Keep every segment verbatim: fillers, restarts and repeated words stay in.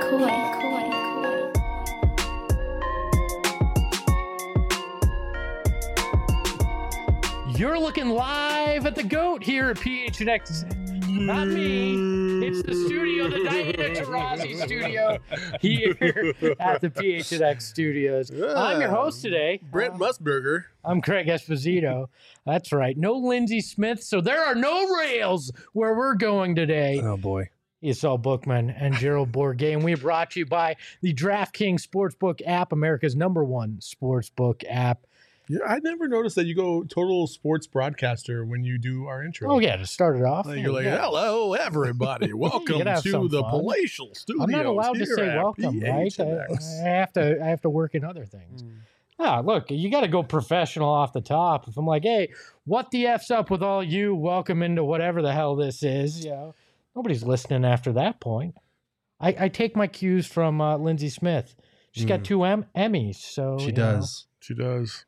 You're looking live at the GOAT here at P H N X. Not me. It's the studio, the Diana Taurasi studio here at the P H N X studios. Yeah. I'm your host today. Brent Uh, Musburger. I'm Craig Esposito. That's right. No Lindsey Smith, so there are no rails where we're going today. Oh, boy. Esau Bookman and Gerald Bourget. And we are brought to you by the DraftKings Sportsbook app, America's number one sportsbook app. Yeah, I never noticed that you go total sports broadcaster when you do our intro. Oh, yeah, to start it off. Like, you're like, yeah. hello, everybody. Welcome have to some the fun. palatial studios. I'm not allowed to here say at welcome, right? I, P H N X. I have to I have to work in other things. Ah, look, you got to go professional off the top. If I'm like, hey, what the F's up with all you? Welcome into whatever the hell this is. You know, nobody's listening after that point. I, I take my cues from uh, Lindsey Smith. She's got Mm. two em- Emmys, so She you does. She does.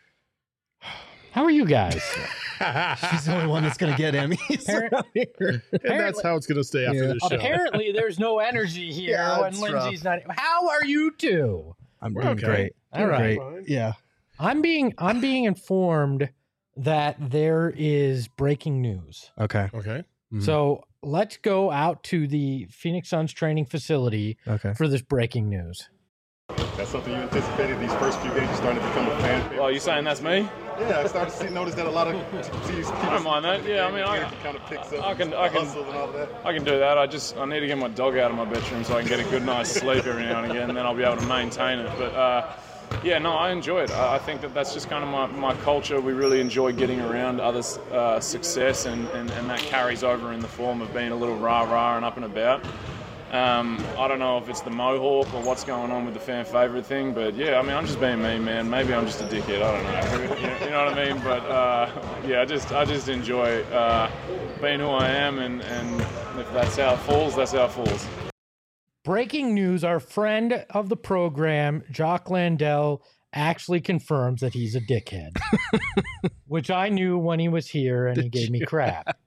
know. How are you guys? She's the only one that's going to get Emmys. around here. And that's how it's going to stay after Yeah. this show. Apparently, there's no energy here Yeah, when it's Lindsay's not. How are you two? I'm We're doing okay. great. All Doing right. great. Fine. Yeah. I'm being I'm being informed that there is breaking news. Okay. Okay. Mhm. So let's go out to the Phoenix Suns training facility Okay. for this breaking news. That's something you anticipated these first few games. You started to become a fan favorite. Oh, you saying that's me? Yeah, I started to see, notice that a lot of teams. I don't mind that. Yeah, I mean, I, kind of picks up. I can- the I can- hustle and all that. I can do that. I just I need to get my dog out of my bedroom so I can get a good night's sleep every now and again, and then I'll be able to maintain it. But uh, yeah, no, I enjoy it. I I think that that's just kind of my, my culture. We really enjoy getting around others' uh, success, and, and, and that carries over in the form of being a little rah-rah and up and about. Um, I don't know if it's the mohawk or what's going on with the fan favorite thing, but yeah, I mean, I'm just being me, man. Maybe I'm just a dickhead. I don't know. You know, you know what I mean? But uh, yeah, I just I just enjoy uh, being who I am, and, and if that's how it falls, that's how it falls. Breaking news: our friend of the program, Jock Landell, actually confirms that he's a dickhead, which I knew when he was here, and he Did gave me you? crap.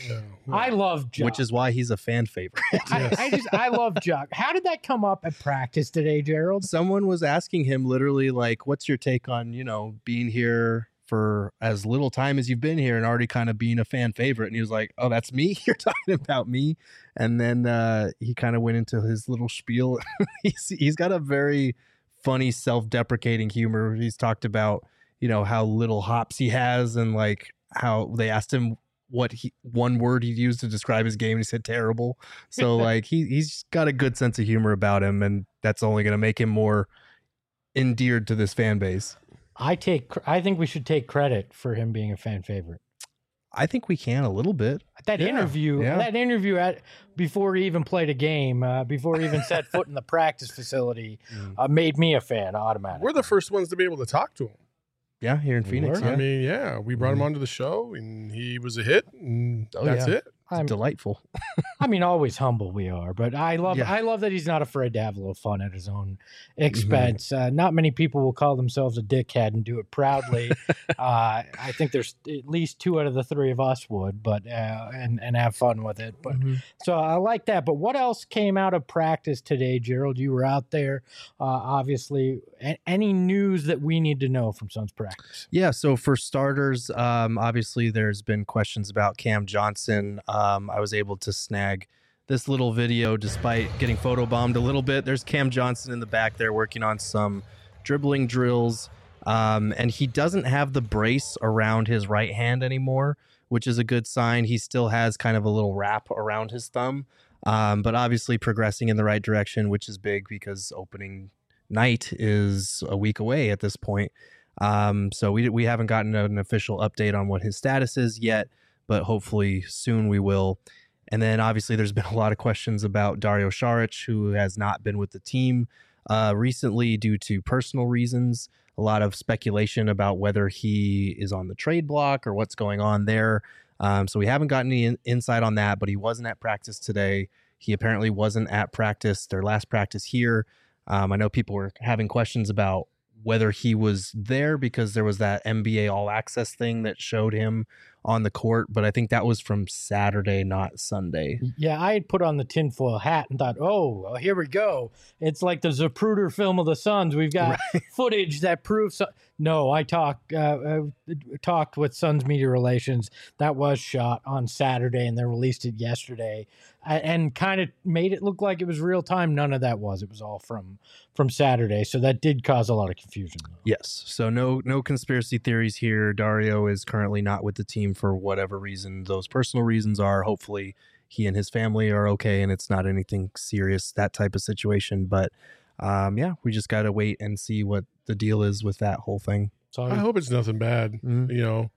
I love Jock. Which is why he's a fan favorite. I, I just I love Jock. How did that come up at practice today, Gerald? Someone was asking him literally, like, what's your take on, you know, being here for as little time as you've been here and already kind of being a fan favorite? And he was like, oh, that's me? You're talking about me? And then uh, he kind of went into his little spiel. he's, he's got a very funny, self-deprecating humor. He's talked about, you know, how little hops he has, and like how they asked him what he one word he'd use to describe his game, and he said terrible. So like he he's got a good sense of humor about him, and that's only going to make him more endeared to this fan base. I take. I think we should take credit for him being a fan favorite. I think we can a little bit. That Yeah, interview, yeah. that interview at before he even played a game, uh, before he even set foot in the practice facility, Mm. uh, made me a fan automatically. We're the first ones to be able to talk to him. Yeah, here in We Phoenix. were. Yeah. I mean, yeah, we brought him Mhm. onto the show, and he was a hit, and Oh, that's yeah. it. It's I'm- delightful. I mean, always humble we are, but I love. Yeah. I love that he's not afraid to have a little fun at his own expense. Uh, not many people will call themselves a dickhead and do it proudly. uh, I think there's at least two out of the three of us would, but uh, and and have fun with it. But Mhm. so I like that. But what else came out of practice today, Gerald? You were out there, uh, obviously. A- any news that we need to know from Suns practice? Yeah, so for starters, um, obviously there's been questions about Cam Johnson. Um, I was able to snag this little video despite getting photobombed a little bit. There's Cam Johnson in the back there working on some dribbling drills, um, and he doesn't have the brace around his right hand anymore, which is a good sign. He still has kind of a little wrap around his thumb, um, but obviously progressing in the right direction, which is big because opening night is a week away at this point. Um, so we we haven't gotten an official update on what his status is yet, but hopefully soon we will. And then obviously there's been a lot of questions about Dario Saric, who has not been with the team uh, recently due to personal reasons. A lot of speculation about whether he is on the trade block or what's going on there. Um, so we haven't gotten any in- insight on that, but he wasn't at practice today. He apparently wasn't at practice, their last practice here. Um, I know people were having questions about whether he was there because there was that N B A All Access thing that showed him on the court, but I think that was from Saturday, not Sunday. Yeah, I had put on the tinfoil hat and thought, oh, here we go. It's like the Zapruder film of the Suns. We've got right. footage that proves. No, I talked uh, uh, talked with Suns Media Relations. That was shot on Saturday, and they released it yesterday, and kind of made it look like it was real time. None of that was. It was all from from Saturday, so that did cause a lot of confusion. Though. Yes, so no no conspiracy theories here. Dario is currently not with the team for whatever reason those personal reasons are. Hopefully, he and his family are okay, and it's not anything serious, that type of situation. But um, yeah, we just got to wait and see what the deal is with that whole thing. I hope it's nothing bad. Mm-hmm. You know,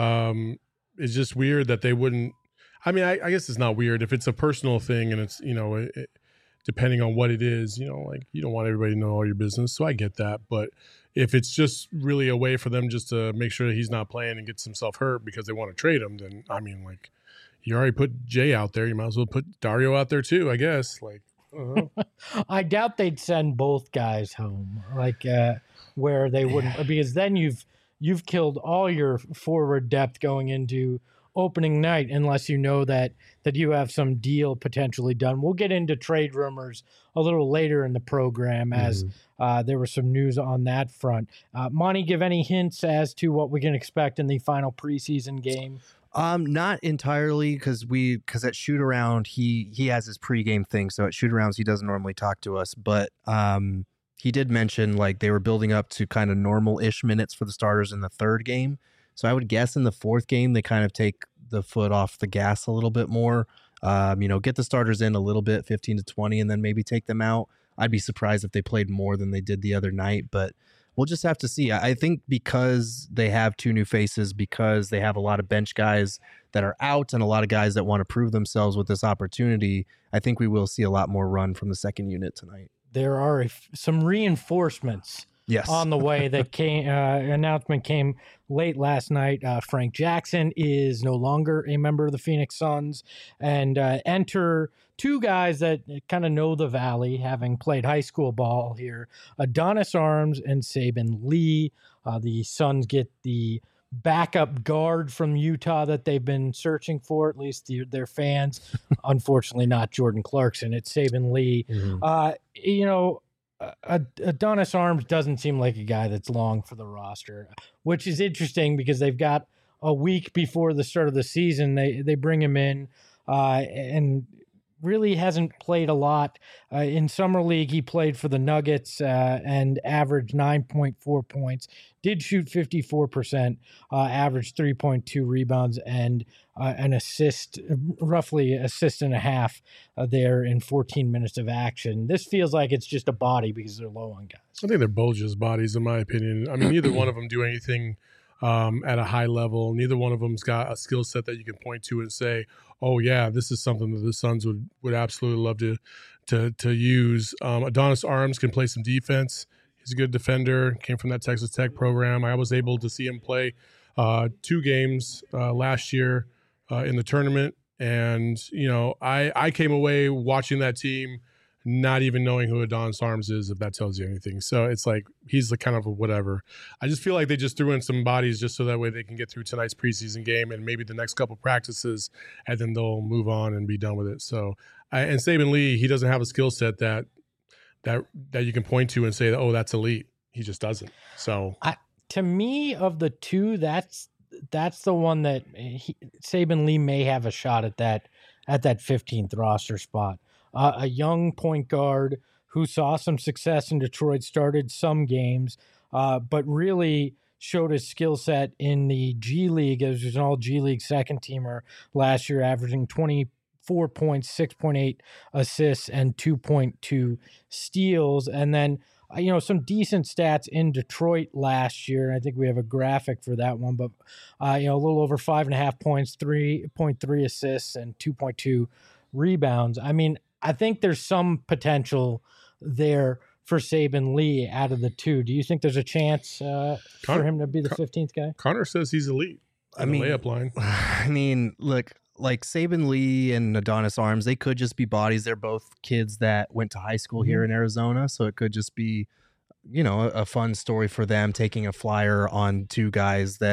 um, it's just weird that they wouldn't. I mean, I, I guess it's not weird if it's a personal thing and it's, you know, it, it, depending on what it is, you know, like you don't want everybody to know all your business. So I get that. But if it's just really a way for them just to make sure that he's not playing and gets himself hurt because they want to trade him, then I mean, like, you already put Jay out there. You might as well put Dario out there too, I guess. Like, uh-huh. I doubt they'd send both guys home, like uh, where they wouldn't, yeah. because then you've you've killed all your forward depth going into opening night, unless you know that that you have some deal potentially done. We'll get into trade rumors a little later in the program, as mm-hmm. uh, there was some news on that front. Uh, Monty, give any hints as to what we can expect in the final preseason game? Um, not entirely, because we because at shoot around he he has his pregame thing. So at shoot arounds he doesn't normally talk to us, but um, he did mention like they were building up to kind of normal ish minutes for the starters in the third game. So I would guess in the fourth game they kind of take the foot off the gas a little bit more. Um, you know, get the starters in a little bit, fifteen to twenty, and then maybe take them out. I'd be surprised if they played more than they did the other night, but we'll just have to see. I think because they have two new faces, because they have a lot of bench guys that are out and a lot of guys that want to prove themselves with this opportunity, I think we will see a lot more run from the second unit tonight. There are a, some reinforcements yes. on the way that came. Uh, announcement came late last night. Uh, Frank Jackson is no longer a member of the Phoenix Suns, and uh, enter two guys that kind of know the Valley, having played high school ball here, Adonis Arms and Saben Lee. Uh, the Suns get the backup guard from Utah that they've been searching for, at least the, their fans. Unfortunately, not Jordan Clarkson. It's Saben Lee. Mm-hmm. Uh, you know, uh, Adonis Arms doesn't seem like a guy that's long for the roster, which is interesting because they've got a week before the start of the season. They, they bring him in uh, and really hasn't played a lot. Uh, in Summer League, he played for the Nuggets uh, and averaged nine point four points, did shoot fifty-four percent, uh, averaged three point two rebounds and uh, an assist, roughly assist and a half uh, there in fourteen minutes of action. This feels like it's just a body because they're low on guys. I think they're both just bodies, in my opinion. I mean, neither one of them do anything um, at a high level. Neither one of them's got a skill set that you can point to and say, oh yeah, this is something that the Suns would, would absolutely love to to to use. Um, Adonis Arms can play some defense. He's a good defender. Came from that Texas Tech program. I was able to see him play uh, two games uh, last year uh, in the tournament, and you know, I I came away watching that team not even knowing who Adonis Arms is, if that tells you anything. So it's like he's the kind of a whatever. I just feel like they just threw in some bodies just so that way they can get through tonight's preseason game and maybe the next couple practices, and then they'll move on and be done with it. So, I, and Saben Lee, he doesn't have a skill set that that that you can point to and say, oh, that's elite. He just doesn't. So, I, to me, of the two, that's that's the one that he, Saben Lee may have a shot at that at that fifteenth roster spot. Uh, a young point guard who saw some success in Detroit, started some games, uh, but really showed his skill set in the G League as an all G League second teamer last year, averaging twenty-four points, six point eight assists, and two point two steals. And then, uh, you know, some decent stats in Detroit last year. I think we have a graphic for that one, but, uh, you know, a little over five and a half points, three point three assists, and two point two rebounds. I mean, I think there's some potential there for Saben Lee out of the two. Do you think there's a chance uh, Con- for him to be the fifteenth guy? Connor says he's elite. I mean, layup line. I mean, look, like Saben Lee and Adonis Arms, they could just be bodies. They're both kids that went to high school mm-hmm. here in Arizona, so it could just be, you know, a, a fun story for them taking a flyer on two guys that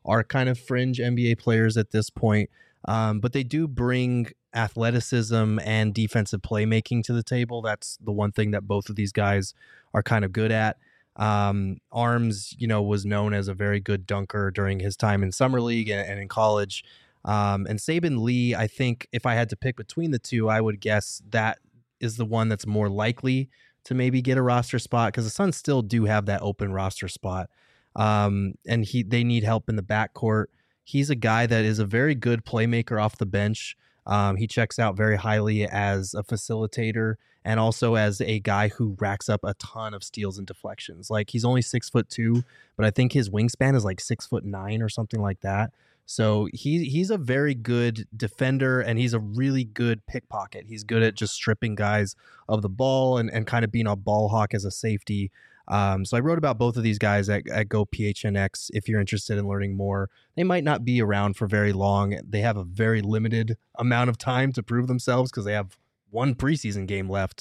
are kind of fringe N B A players at this point. Um, but they do bring athleticism and defensive playmaking to the table. That's the one thing that both of these guys are kind of good at. Um, Arms, you know, was known as a very good dunker during his time in summer league and, and in college. Um, and Saben Lee, I think if I had to pick between the two, I would guess that is the one that's more likely to maybe get a roster spot, because the Suns still do have that open roster spot. Um, and he they need help in the backcourt. He's a guy that is a very good playmaker off the bench. Um, he checks out very highly as a facilitator and also as a guy who racks up a ton of steals and deflections. Like, he's only six foot two, but I think his wingspan is like six foot nine or something like that. So he he's a very good defender, and he's a really good pickpocket. He's good at just stripping guys of the ball and, and kind of being a ball hawk as a safety. Um, so I wrote about both of these guys at, at Go P H N X. If you're interested in learning more, they might not be around for very long. They have a very limited amount of time to prove themselves because they have one preseason game left.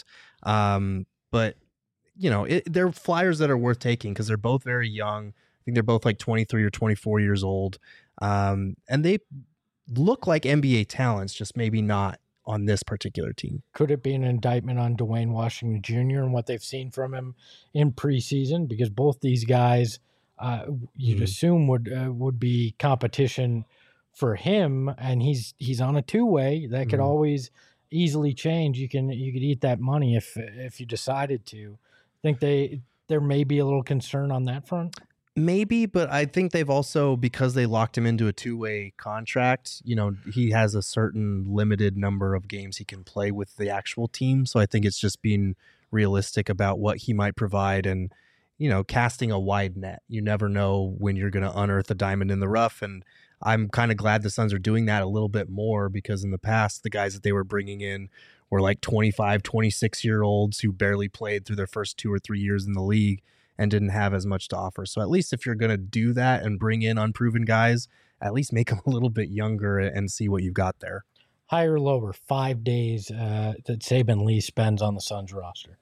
Um, but, you know, it, they're flyers that are worth taking because they're both very young. I think they're both like twenty-three or twenty-four years old. Um, and they look like N B A talents, just maybe not on this particular team. Could it be an indictment on Dwayne Washington Junior and what they've seen from him in preseason? Because both these guys, uh, you'd mm-hmm. assume would uh, would be competition for him, and he's he's on a two way that could mm-hmm. always easily change. You can you could eat that money if if you decided to. Think they there may be a little concern on that front. Maybe, but I think they've also, because they locked him into a two-way contract, you know, he has a certain limited number of games he can play with the actual team. So I think it's just being realistic about what he might provide and, you know, casting a wide net. You never know when you're going to unearth a diamond in the rough. And I'm kind of glad the Suns are doing that a little bit more, because in the past, the guys that they were bringing in were like twenty-five, twenty-six year olds who barely played through their first two or three years in the league and didn't have as much to offer. So at least if you're going to do that and bring in unproven guys, at least make them a little bit younger and see what you've got there. Higher or lower, five days uh, that Saben Lee spends on the Suns roster?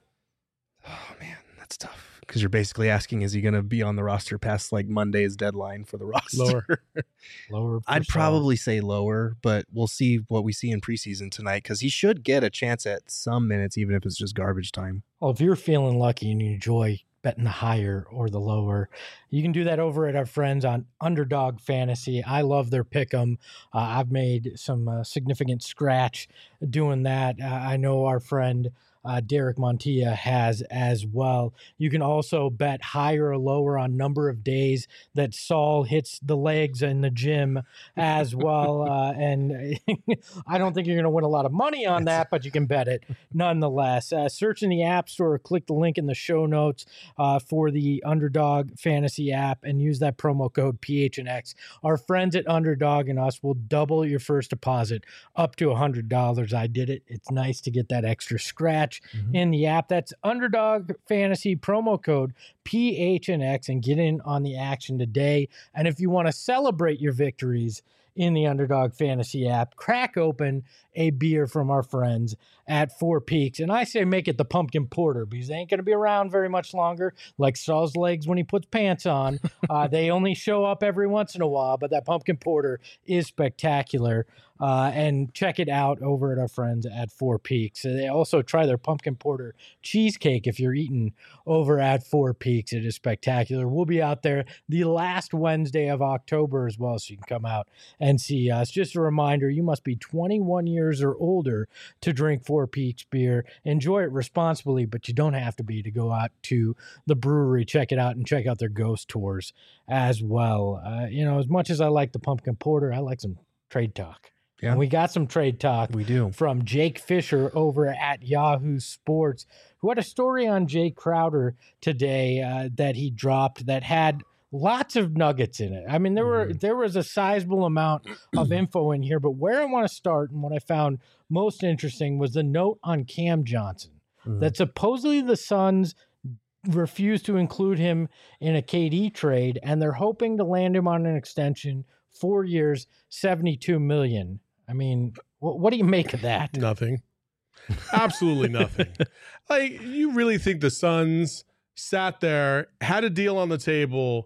Oh, man, that's tough. Because you're basically asking, is he going to be on the roster past like Monday's deadline for the roster? Lower. lower. I'd probably say lower, but we'll see what we see in preseason tonight, because he should get a chance at some minutes, even if it's just garbage time. Well, if you're feeling lucky and you enjoy betting the higher or the lower, you can do that over at our friends on Underdog Fantasy. I love their pick'em. Uh, I've made some uh, significant scratch doing that. Uh, I know our friend uh, Derek Montilla has as well. You can also bet higher or lower on number of days that Saul hits the legs in the gym as well. Uh, and I don't think you're going to win a lot of money on that, but you can bet it nonetheless. Uh, search in the App Store, or click the link in the show notes uh, for the Underdog Fantasy app and use that promo code P H N X. Our friends at Underdog and us will double your first deposit up to one hundred dollars. I did it. It's nice to get that extra scratch mm-hmm. in the app. That's Underdog Fantasy, promo code P H N X, and get in on the action today. And if you want to celebrate your victories in the Underdog Fantasy app, crack open a beer from our friends at Four Peaks. And I say make it the pumpkin porter, because they ain't going to be around very much longer, like Saul's legs when he puts pants on. Uh, they only show up every once in a while, but that pumpkin porter is spectacular. Uh, and check it out over at our friends at Four Peaks. They also try their pumpkin porter cheesecake if you're eating over at Four Peaks. It is spectacular. We'll be out there the last Wednesday of October as well, so you can come out and see us. Just a reminder, you must be twenty-one years or older to drink Four Peaks beer. Enjoy it responsibly, but you don't have to be to go out to the brewery, check it out, and check out their ghost tours as well. Uh, you know, as much as I like the pumpkin porter, I like some trade talk. Yeah. And we got some trade talk we do. from Jake Fisher over at Yahoo Sports, who had a story on Jay Crowder today uh, that he dropped that had lots of nuggets in it. I mean, there were there was a sizable amount of info in here, but where I want to start and what I found most interesting was the note on Cam Johnson, mm-hmm. that supposedly the Suns refused to include him in a K D trade, and they're hoping to land him on an extension, four years, seventy-two million dollars. I mean, what, what do you make of that? Nothing. Absolutely nothing. Like, you really think the Suns sat there, had a deal on the table,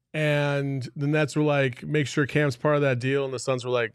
and the Nets were like, make sure Cam's part of that deal, and the Suns were like,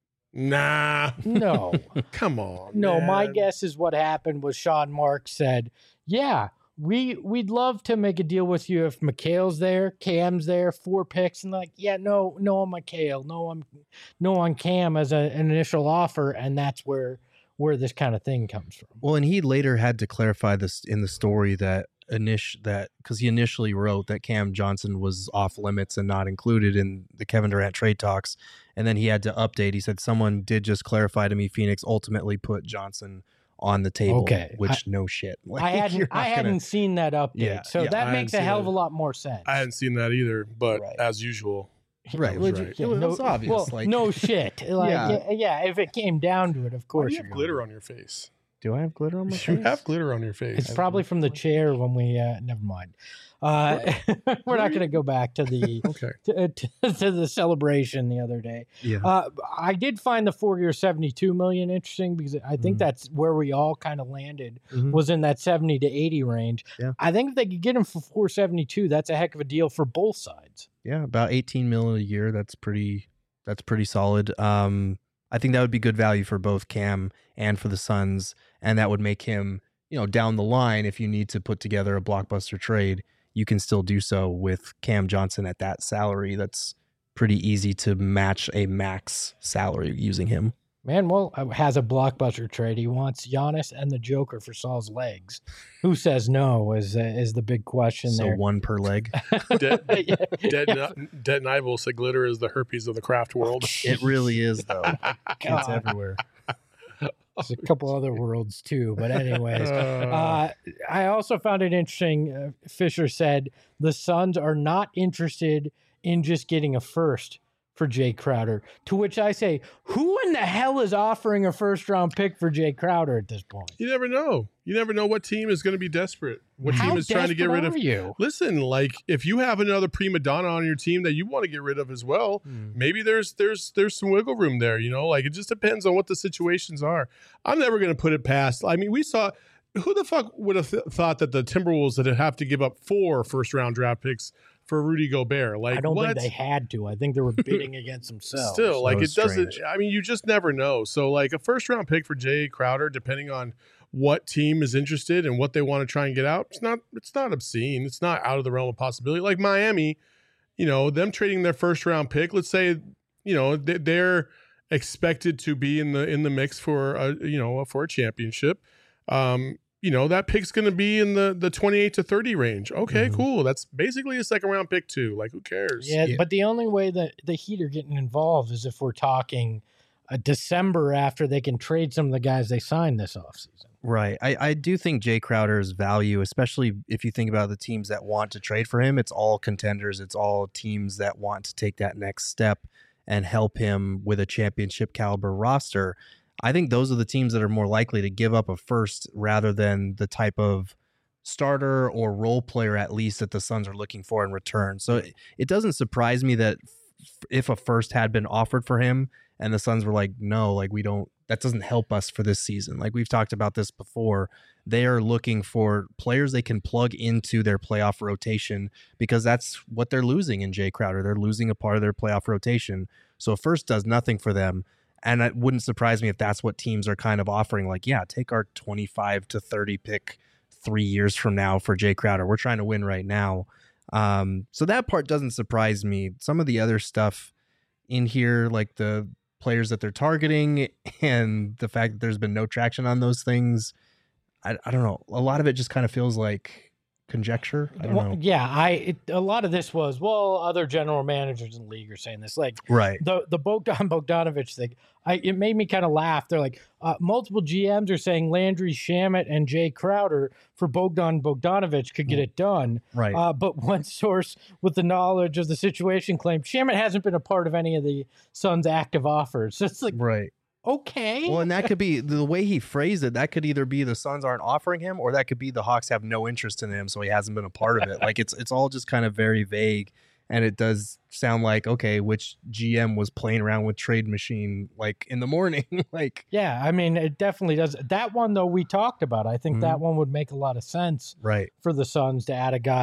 nah, No, come on. no. man. My guess is what happened was Sean Marks said, "Yeah, we we'd love to make a deal with you if McHale's there, Cam's there, four picks." And like, yeah, no, no on McHale, no on, no on Cam as a, an initial offer, and that's where where this kind of thing comes from. Well, and he later had to clarify this in the story that init that because he initially wrote that Cam Johnson was off limits and not included in the Kevin Durant trade talks, and then he had to update. He said someone did just clarify to me Phoenix ultimately put Johnson on the table. Okay. Which I- no shit. Like, I hadn't you're I not hadn't gonna- seen that update, Yeah, so yeah, that I makes hadn't a hell seen of a it. lot more sense. I hadn't seen that either, but Right. as usual, right. was Well, right. it was no, obvious. well, like, no shit. Like, Yeah. yeah. yeah, if it came down to it, of why course do you you're have glitter going. on your face? do I have glitter on my You face? have glitter on your face. It's probably from the chair when we. Uh, never mind. Uh, we're not going to go back to the Okay. to, to, to the celebration the other day. Yeah. Uh, I did find the four-year seventy-two million interesting because I think Mhm. that's where we all kind of landed Mhm. was in that seventy to eighty range. Yeah. I think if they could get him for four seventy-two, that's a heck of a deal for both sides. Yeah, about eighteen million a year. That's pretty. That's pretty solid. Um, I think that would be good value for both Cam and for the Suns, and that would make him, you know, down the line if you need to put together a blockbuster trade, you can still do so with Cam Johnson at that salary. That's pretty easy to match a max salary using him. Man, well, uh, has a blockbuster trade. He wants Giannis and the Joker for Saul's legs. Who says no is uh, is the big question So there. one per leg. Dead, Yeah. Dead, and- Dead and Ivel said glitter is the herpes of the craft world. It really is though. It's God. everywhere. There's a couple other worlds too, but anyways. Uh, Uh, I also found it interesting. Uh, Fisher said the Suns are not interested in just getting a first for Jay Crowder. To which I say, who in the hell is offering a first round pick for Jay Crowder at this point? you never know. You never know what team is going to be desperate. What How team is trying to get desperate rid of. are you? Listen, like if you have another prima donna on your team that you want to get rid of as well, maybe there's there's there's some wiggle room there. You know, like it just depends on what the situations are. I'm never going to put it past. I mean, we saw. Who the fuck would have th- thought that the Timberwolves would have to give up four first round draft picks for Rudy Gobert? Like, I don't what? think they had to. I think they were bidding against themselves. Still, like was it doesn't. strange. I mean, you just never know. So, like a first round pick for Jay Crowder, depending on what team is interested and what they want to try and get out, it's not. It's not obscene. It's not out of the realm of possibility. Like Miami, you know, them trading their first round pick. Let's say, you know, they- they're expected to be in the in the mix for a you know for a championship. Um, you know, that pick's going to be in the the twenty-eight to thirty range. Okay, Mhm. cool. That's basically a second round pick too. Like, who cares? Yeah, Yeah. but the only way that the Heat are getting involved is if we're talking a December after they can trade some of the guys they signed this offseason. Right. I, I do think Jay Crowder's value, especially if you think about the teams that want to trade for him, it's all contenders. It's all teams that want to take that next step and help him with a championship caliber roster. I think those are the teams that are more likely to give up a first rather than the type of starter or role player, at least, that the Suns are looking for in return. So it, it doesn't surprise me that f- if a first had been offered for him and the Suns were like, no, like we don't, that doesn't help us for this season. Like we've talked about this before. They are looking for players they can plug into their playoff rotation because that's what they're losing in Jay Crowder. They're losing a part of their playoff rotation. So a first does nothing for them. And it wouldn't surprise me if that's what teams are kind of offering. Like, yeah, take our twenty-five to thirty pick three years from now for Jay Crowder. We're trying to win right now. Um, so that part doesn't surprise me. Some of the other stuff in here, like the players that they're targeting and the fact that there's been no traction on those things, I, I don't know. A lot of it just kind of feels like conjecture. I don't Well, know. yeah, I it, a lot of this was well, other general managers in the league are saying this. Like Right. the the Bogdan Bogdanovich thing, I it made me kind of laugh. They're like uh, multiple G Ms are saying Landry Shamet and Jay Crowder for Bogdan Bogdanovich could get it done. Right. Uh, but one source with the knowledge of the situation claimed Shamet hasn't been a part of any of the Suns' active offers. So it's like, right. okay. Well, and that could be the way he phrased it. That could either be the Suns aren't offering him, or that could be the Hawks have no interest in him, so he hasn't been a part of it. Like it's it's all just kind of very vague, and it does sound like okay, which G M was playing around with Trade Machine like in the morning, like Yeah, I mean, it definitely does. That one, though, we talked about. I think that one would make a lot of sense right. for the Suns to add a guy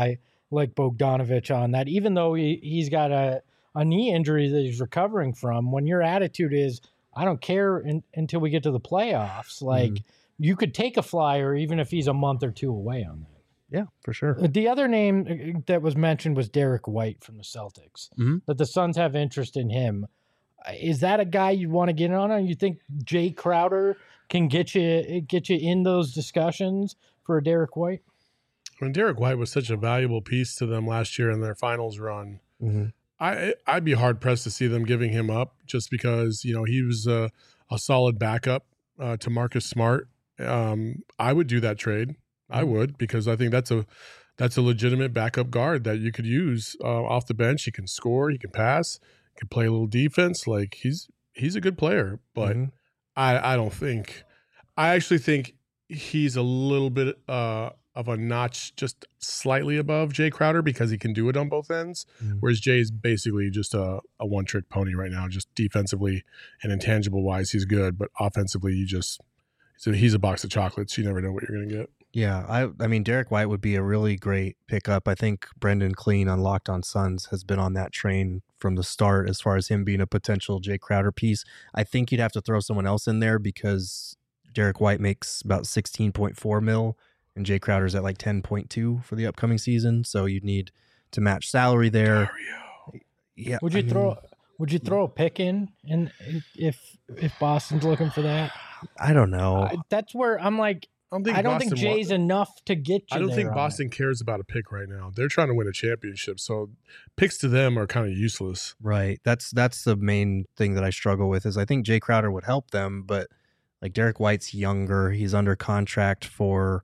like Bogdanovich on that, even though he, he's got a, a knee injury that he's recovering from. When your attitude is, I don't care in, until we get to the playoffs, like mm. you could take a flyer even if he's a month or two away on that. Yeah, for sure. The other name that was mentioned was Derek White from the Celtics, mm-hmm. that the Suns have interest in him. Is that a guy you'd want to get on? Or you think Jay Crowder can get you get you in those discussions for a Derek White? I mean, Derek White was such a valuable piece to them last year in their finals run. Mm-hmm. I I'd be hard pressed to see them giving him up just because you know he was a, a solid backup uh, to Marcus Smart. Um, I would do that trade. I would, because I think that's a that's a legitimate backup guard that you could use uh, off the bench. He can score, he can pass, he can play a little defense. Like he's he's a good player, but mm-hmm. I I don't think I actually think he's a little bit uh, of a notch just slightly above Jay Crowder because he can do it on both ends, mm-hmm. whereas Jay is basically just a, a one trick pony right now. Just defensively and intangible wise, he's good, but offensively, you just so he's a box of chocolates. You never know what you're gonna get. Yeah, I I mean, Derek White would be a really great pickup. I think Brendan Clean on Locked On Suns has been on that train from the start as far as him being a potential Jay Crowder piece. I think you'd have to throw someone else in there because Derek White makes about sixteen point four mil and Jay Crowder's at like ten point two for the upcoming season. So you'd need to match salary there. Dario. Yeah. Would you I throw mean, would you throw a pick in and if if Boston's looking for that? I don't know. I, that's where I'm like I don't think, I don't think Jay's wa- enough to get you I don't there think Boston it. cares about a pick right now. They're trying to win a championship, so picks to them are kind of useless. Right. That's that's the main thing that I struggle with is I think Jay Crowder would help them, but like Derek White's younger. He's under contract for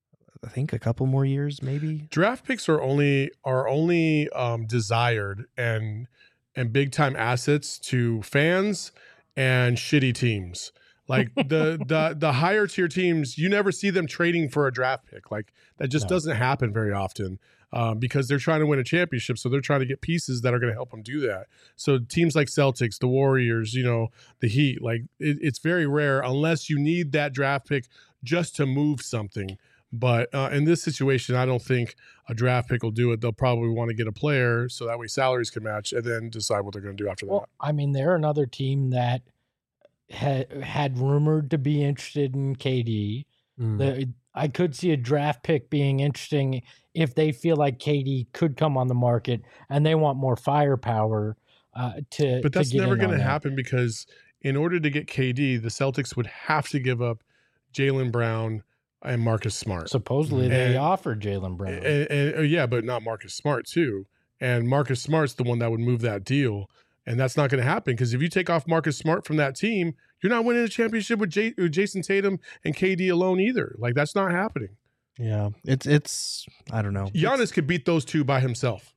I think a couple more years, maybe. Draft picks are only are only um, desired and and big time assets to fans and shitty teams. Like the the the higher tier teams, you never see them trading for a draft pick. Like that just no. doesn't happen very often um, because they're trying to win a championship. So they're trying to get pieces that are going to help them do that. So teams like Celtics, the Warriors, you know, the Heat, like it, it's very rare unless you need that draft pick just to move something. But uh, in this situation, I don't think a draft pick will do it. They'll probably want to get a player so that way salaries can match and then decide what they're going to do after well, that. I mean, they're another team that had had rumored to be interested in K D. Mm. The, I could see a draft pick being interesting if they feel like K D could come on the market and they want more firepower uh, to. But that's to never going to that. happen because in order to get K D, the Celtics would have to give up Jaylen Brown and Marcus Smart. Supposedly and, they offered Jaylen Brown. And, and, and, yeah, but not Marcus Smart too. And Marcus Smart's the one that would move that deal. And that's not going to happen because if you take off Marcus Smart from that team, you're not winning a championship with, J- with Jason Tatum and K D alone either. Like, that's not happening. Yeah, it's, it's I don't know. Giannis it's, could beat those two by himself.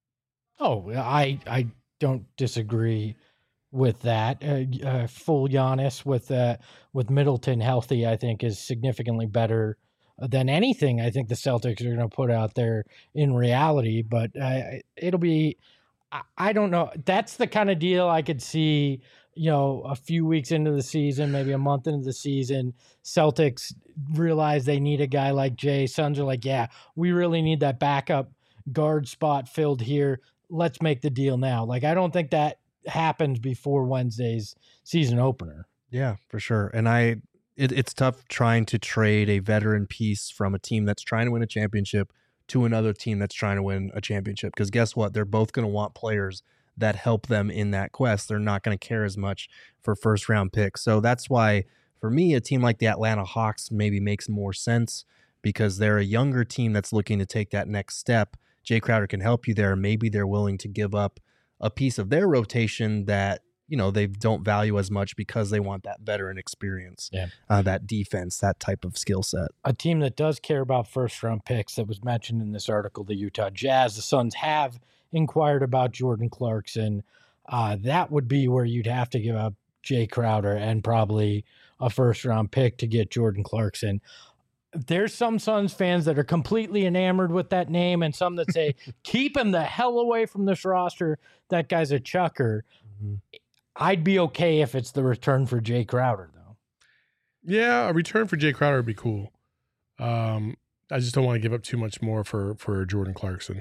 Oh, I I don't disagree with that. Uh, uh, full Giannis with uh, with Middleton healthy, I think, is significantly better than anything I think the Celtics are going to put out there in reality. But uh, it'll be... I don't know. That's the kind of deal I could see, you know, a few weeks into the season, maybe a month into the season, Celtics realize they need a guy like Jay. Suns are like, yeah, we really need that backup guard spot filled here. Let's make the deal now. Like, I don't think that happens before Wednesday's season opener. Yeah, for sure. And I, it, it's tough trying to trade a veteran piece from a team that's trying to win a championship to another team that's trying to win a championship. Because guess what? They're both going to want players that help them in that quest. They're not going to care as much for first round picks. So that's why, for me, a team like the Atlanta Hawks maybe makes more sense because they're a younger team that's looking to take that next step. Jay Crowder can help you there. Maybe they're willing to give up a piece of their rotation that, you know, they don't value as much because they want that veteran experience, yeah. uh, that defense, that type of skill set. A team that does care about first round picks that was mentioned in this article, the Utah Jazz. The Suns have inquired about Jordan Clarkson. Uh, that would be where you'd have to give up Jay Crowder and probably a first round pick to get Jordan Clarkson. There's some Suns fans that are completely enamored with that name and some that say, keep him the hell away from this roster. That guy's a chucker. Mm-hmm. I'd be okay if it's the return for Jay Crowder, though. Yeah, a return for Jay Crowder would be cool. Um, I just don't want to give up too much more for, for Jordan Clarkson.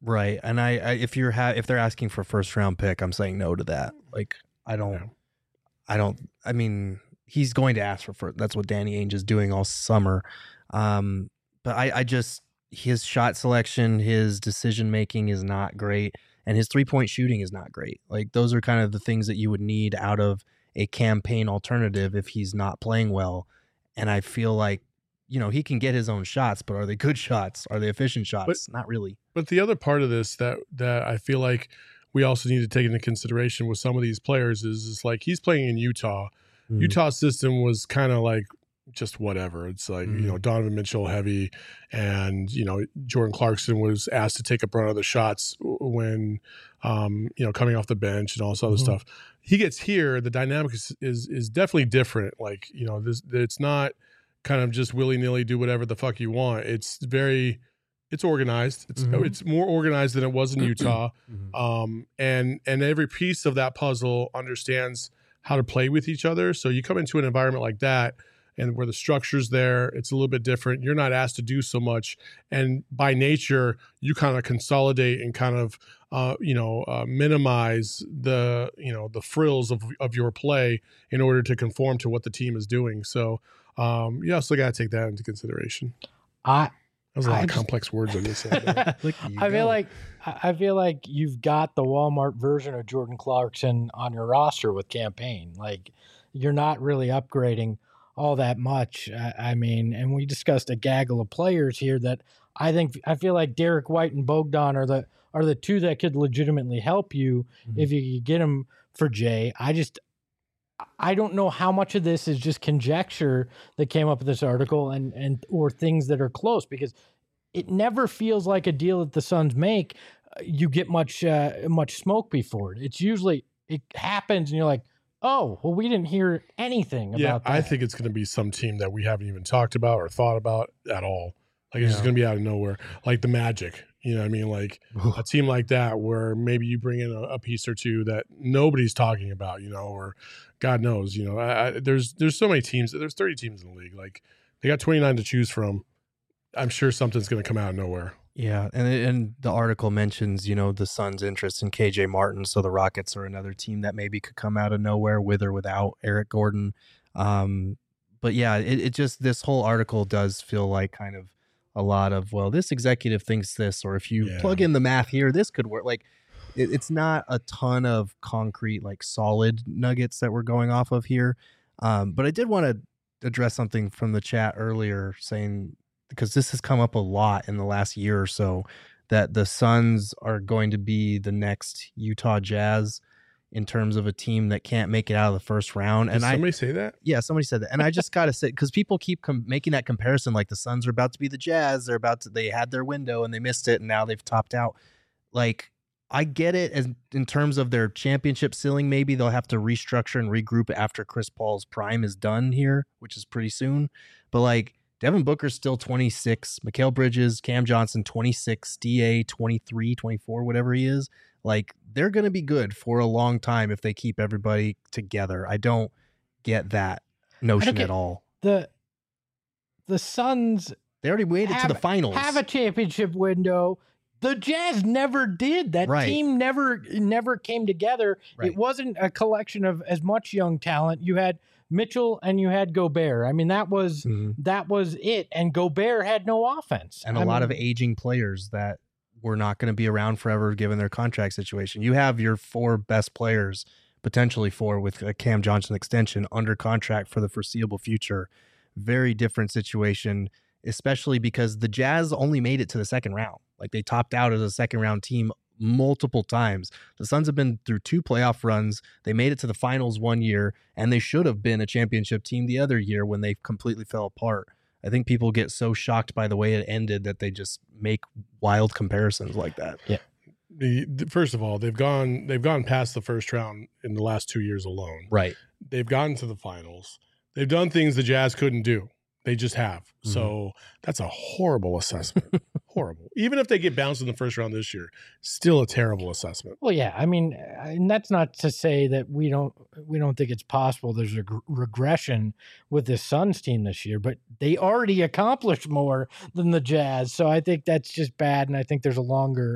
Right. And I, I if you're ha- if they're asking for first round pick, I'm saying no to that. Like I don't, Yeah. I don't. I mean, he's going to ask for first. That's what Danny Ainge is doing all summer. Um, but I, I just his shot selection, his decision making is not great, and his three point shooting is not great. Like those are kind of the things that you would need out of a campaign alternative if he's not playing well. And I feel like, you know, he can get his own shots, but are they good shots? Are they efficient shots? Not really. But the other part of this that that I feel like we also need to take into consideration with some of these players is, is like he's playing in Utah. Mm. Utah's system was kind of like just whatever. It's like, mm. you know, Donovan Mitchell heavy, and, you know, Jordan Clarkson was asked to take up run of the shots when, um, you know, coming off the bench and all this other mm-hmm. stuff. He gets here, the dynamic is, is is definitely different. Like, you know, this it's not kind of just willy-nilly do whatever the fuck you want. It's very it's organized. It's mm-hmm. it's more organized than it was in Utah. mm-hmm. Um, and and every piece of that puzzle understands how to play with each other. So you come into an environment like that, and where the structure's there, it's a little bit different. You're not asked to do so much. And by nature, you kind of consolidate and kind of, uh, you know, uh, minimize the, you know, the frills of, of your play in order to conform to what the team is doing. So um, you also got to take that into consideration. I, That was a lot I of just, complex words on this side. I feel like I feel like you've got the Walmart version of Jordan Clarkson on your roster with campaign. Like you're not really upgrading all that much. I, I mean, and we discussed a gaggle of players here that I think I feel like Derek White and Bogdan are the are the two that could legitimately help you mm-hmm. if you could get them for Jay. I just I don't know how much of this is just conjecture that came up with this article and and or things that are close, because it never feels like a deal that the Suns make. Uh, you get much uh, much smoke before it. It's usually it happens and you're like, oh, well, we didn't hear anything yeah, about that. I think it's going to be some team that we haven't even talked about or thought about at all. Like it's yeah. just going to be out of nowhere, like the Magic. You know what I mean? Like a team like that where maybe you bring in a, a piece or two that nobody's talking about, you know, or God knows, you know, I, I, there's there's so many teams. There's thirty teams in the league. Like they got twenty-nine to choose from. I'm sure something's going to come out of nowhere. Yeah, and and the article mentions, you know, the Suns' interest in K J Martin, so the Rockets are another team that maybe could come out of nowhere with or without Eric Gordon. Um, but yeah, it, it just, this whole article does feel like kind of a lot of, well, this executive thinks this, or if you yeah. plug in the math here, this could work. Like it, it's not a ton of concrete, like solid nuggets that we're going off of here. Um, but I did want to address something from the chat earlier saying, because this has come up a lot in the last year or so, that the Suns are going to be the next Utah Jazz in terms of a team that can't make it out of the first round. Did and somebody I, say that? Yeah, somebody said that. And I just got to say, because people keep com- making that comparison, like the Suns are about to be the Jazz. They're about to, they had their window and they missed it, and now they've topped out. Like, I get it as in terms of their championship ceiling. Maybe they'll have to restructure and regroup after Chris Paul's prime is done here, which is pretty soon. But like, Devin Booker's still twenty-six, Mikal Bridges, Cam Johnson, twenty-six, D A, twenty-three, twenty-four, whatever he is. Like, they're going to be good for a long time if they keep everybody together. I don't get that notion get at all. The the Suns, they already made have, it to the finals. Have a championship window. The Jazz never did. That right. team never never came together. Right. It wasn't a collection of as much young talent. You had Mitchell and you had Gobert. I mean, that was mm-hmm. that was it. And Gobert had no offense. And I a lot mean, of aging players that were not going to be around forever given their contract situation. You have your four best players, potentially four with a Cam Johnson extension, under contract for the foreseeable future. Very different situation, especially because the Jazz only made it to the second round. Like, they topped out as a second round team multiple times. The Suns have been through two playoff runs. They made it to the finals one year, and they should have been a championship team the other year when they completely fell apart. I think people get so shocked by the way it ended that they just make wild comparisons like that. Yeah. The, the, first of all, they've gone they've gone past the first round in the last two years alone. Right. They've gotten to the finals. They've done things the Jazz couldn't do. They just have. Mm-hmm. So that's a horrible assessment. Horrible. Even if they get bounced in the first round this year, still a terrible assessment. Well, yeah. I mean, and that's not to say that we don't we don't think it's possible there's a g- regression with this Suns team this year, but they already accomplished more than the Jazz. So I think that's just bad, and I think there's a longer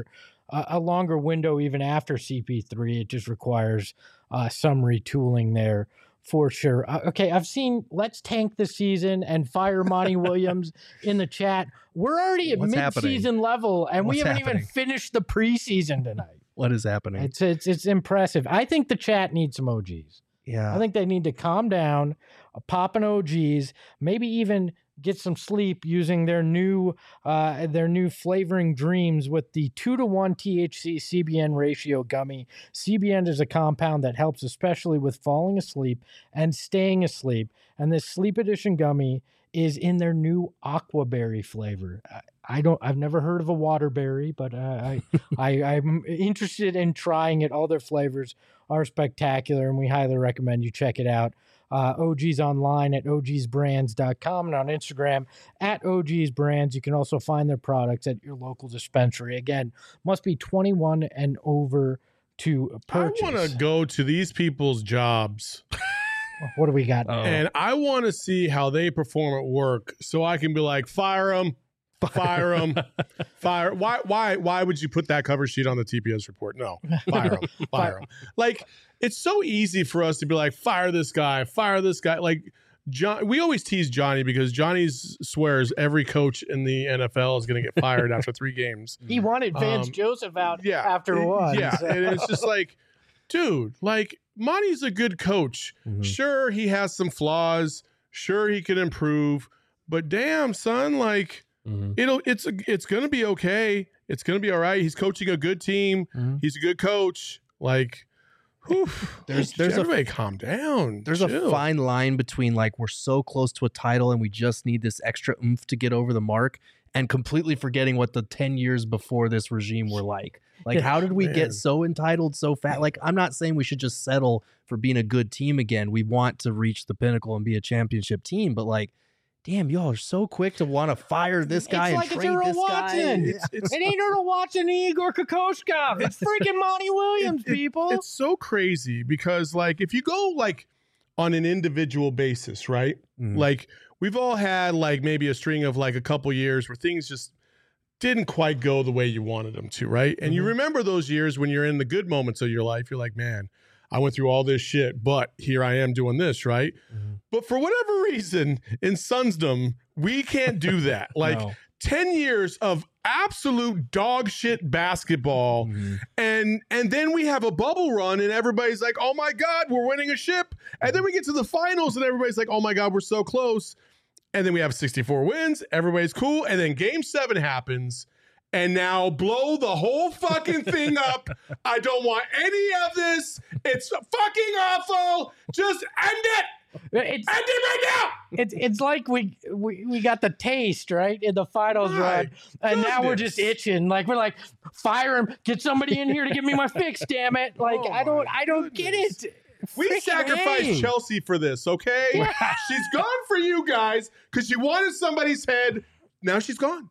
a, a longer window even after C P three. It just requires uh, some retooling there for sure. Uh, okay, I've seen Let's Tank the Season and Fire Monty Williams in the chat. We're already at What's mid-season happening? level, and What's we haven't happening? even finished the preseason tonight. What is happening? It's it's it's impressive. I think the chat needs some O Gs. Yeah. I think they need to calm down, uh, pop an O Gs, maybe even get some sleep using their new uh, their new flavoring dreams with the two to one T H C C B N ratio gummy. C B N is a compound that helps especially with falling asleep and staying asleep. And this Sleep Edition gummy is in their new aquaberry flavor. I, I don't. I've never heard of a waterberry, but uh, I, I I'm interested in trying it. All their flavors are spectacular, and we highly recommend you check it out. Uh, O Gs online at O Gs brands dot com and on Instagram at O Gs brands. You can also find their products at your local dispensary. Again, must be twenty-one and over to purchase. I want to go to these people's jobs. What do we got? Oh. And I want to see how they perform at work so I can be like, fire them, fire them, fire. Why, why, why would you put that cover sheet on the T P S report? No, fire them, fire them. Like, it's so easy for us to be like, fire this guy, fire this guy. Like, John, we always tease Johnny because Johnny swears every coach in the N F L is going to get fired after three games. He wanted Vance Um, Joseph out Yeah, after one. Yeah, so- and it's just like, dude, like, Monty's a good coach. Mhm. Sure, he has some flaws. Sure, he can improve. But damn, son, like Mhm. it'll it's it's gonna be okay. It's gonna be all right. He's coaching a good team. Mhm. He's a good coach. Like, whew, There's- there's a- everybody calm down. There's Chill. a fine line between like we're so close to a title and we just need this extra oomph to get over the mark and completely forgetting what the ten years before this regime were like. Like, Yeah, how did we man. get so entitled so fast? Like, I'm not saying we should just settle for being a good team again. We want to reach the pinnacle and be a championship team, but like, damn, y'all are so quick to want to fire this guy It's and like it's trade Earl this Watson. guy. It's, it's, It ain't Earl Watson and Igor Kokoshkov. It's freaking Monty Williams, it- it- people. it's so crazy because, like, if you go like on an individual basis, right? Mhm. Like, we've all had like maybe a string of like a couple years where things just didn't quite go the way you wanted them to, right? And you Mhm. remember those years when you're in the good moments of your life, you're like, man, I went through all this shit, but here I am doing this, right? Mhm. But for whatever reason, in Sunsdom, we can't do that. Like No. ten years of absolute dog shit basketball, Mhm. and and then we have a bubble run and everybody's like, oh my God, we're winning a ship. And then we get to the finals and everybody's like, oh my God, we're so close. And then we have sixty-four wins. Everybody's cool. And then game seven happens. And now blow the whole fucking thing up. I don't want any of this. It's fucking awful. Just end it. It's, End it right now. it's it's like we, we we got the taste right in the finals My run, and now we're goodness. just itching. Like we're like, fire him, get somebody in here to give me my fix. Damn it! Like Oh I don't my I don't goodness. get it. We Freaking sacrificed A. Chelsea for this, okay? Yeah. She's gone for you guys because you wanted somebody's head. Now she's gone.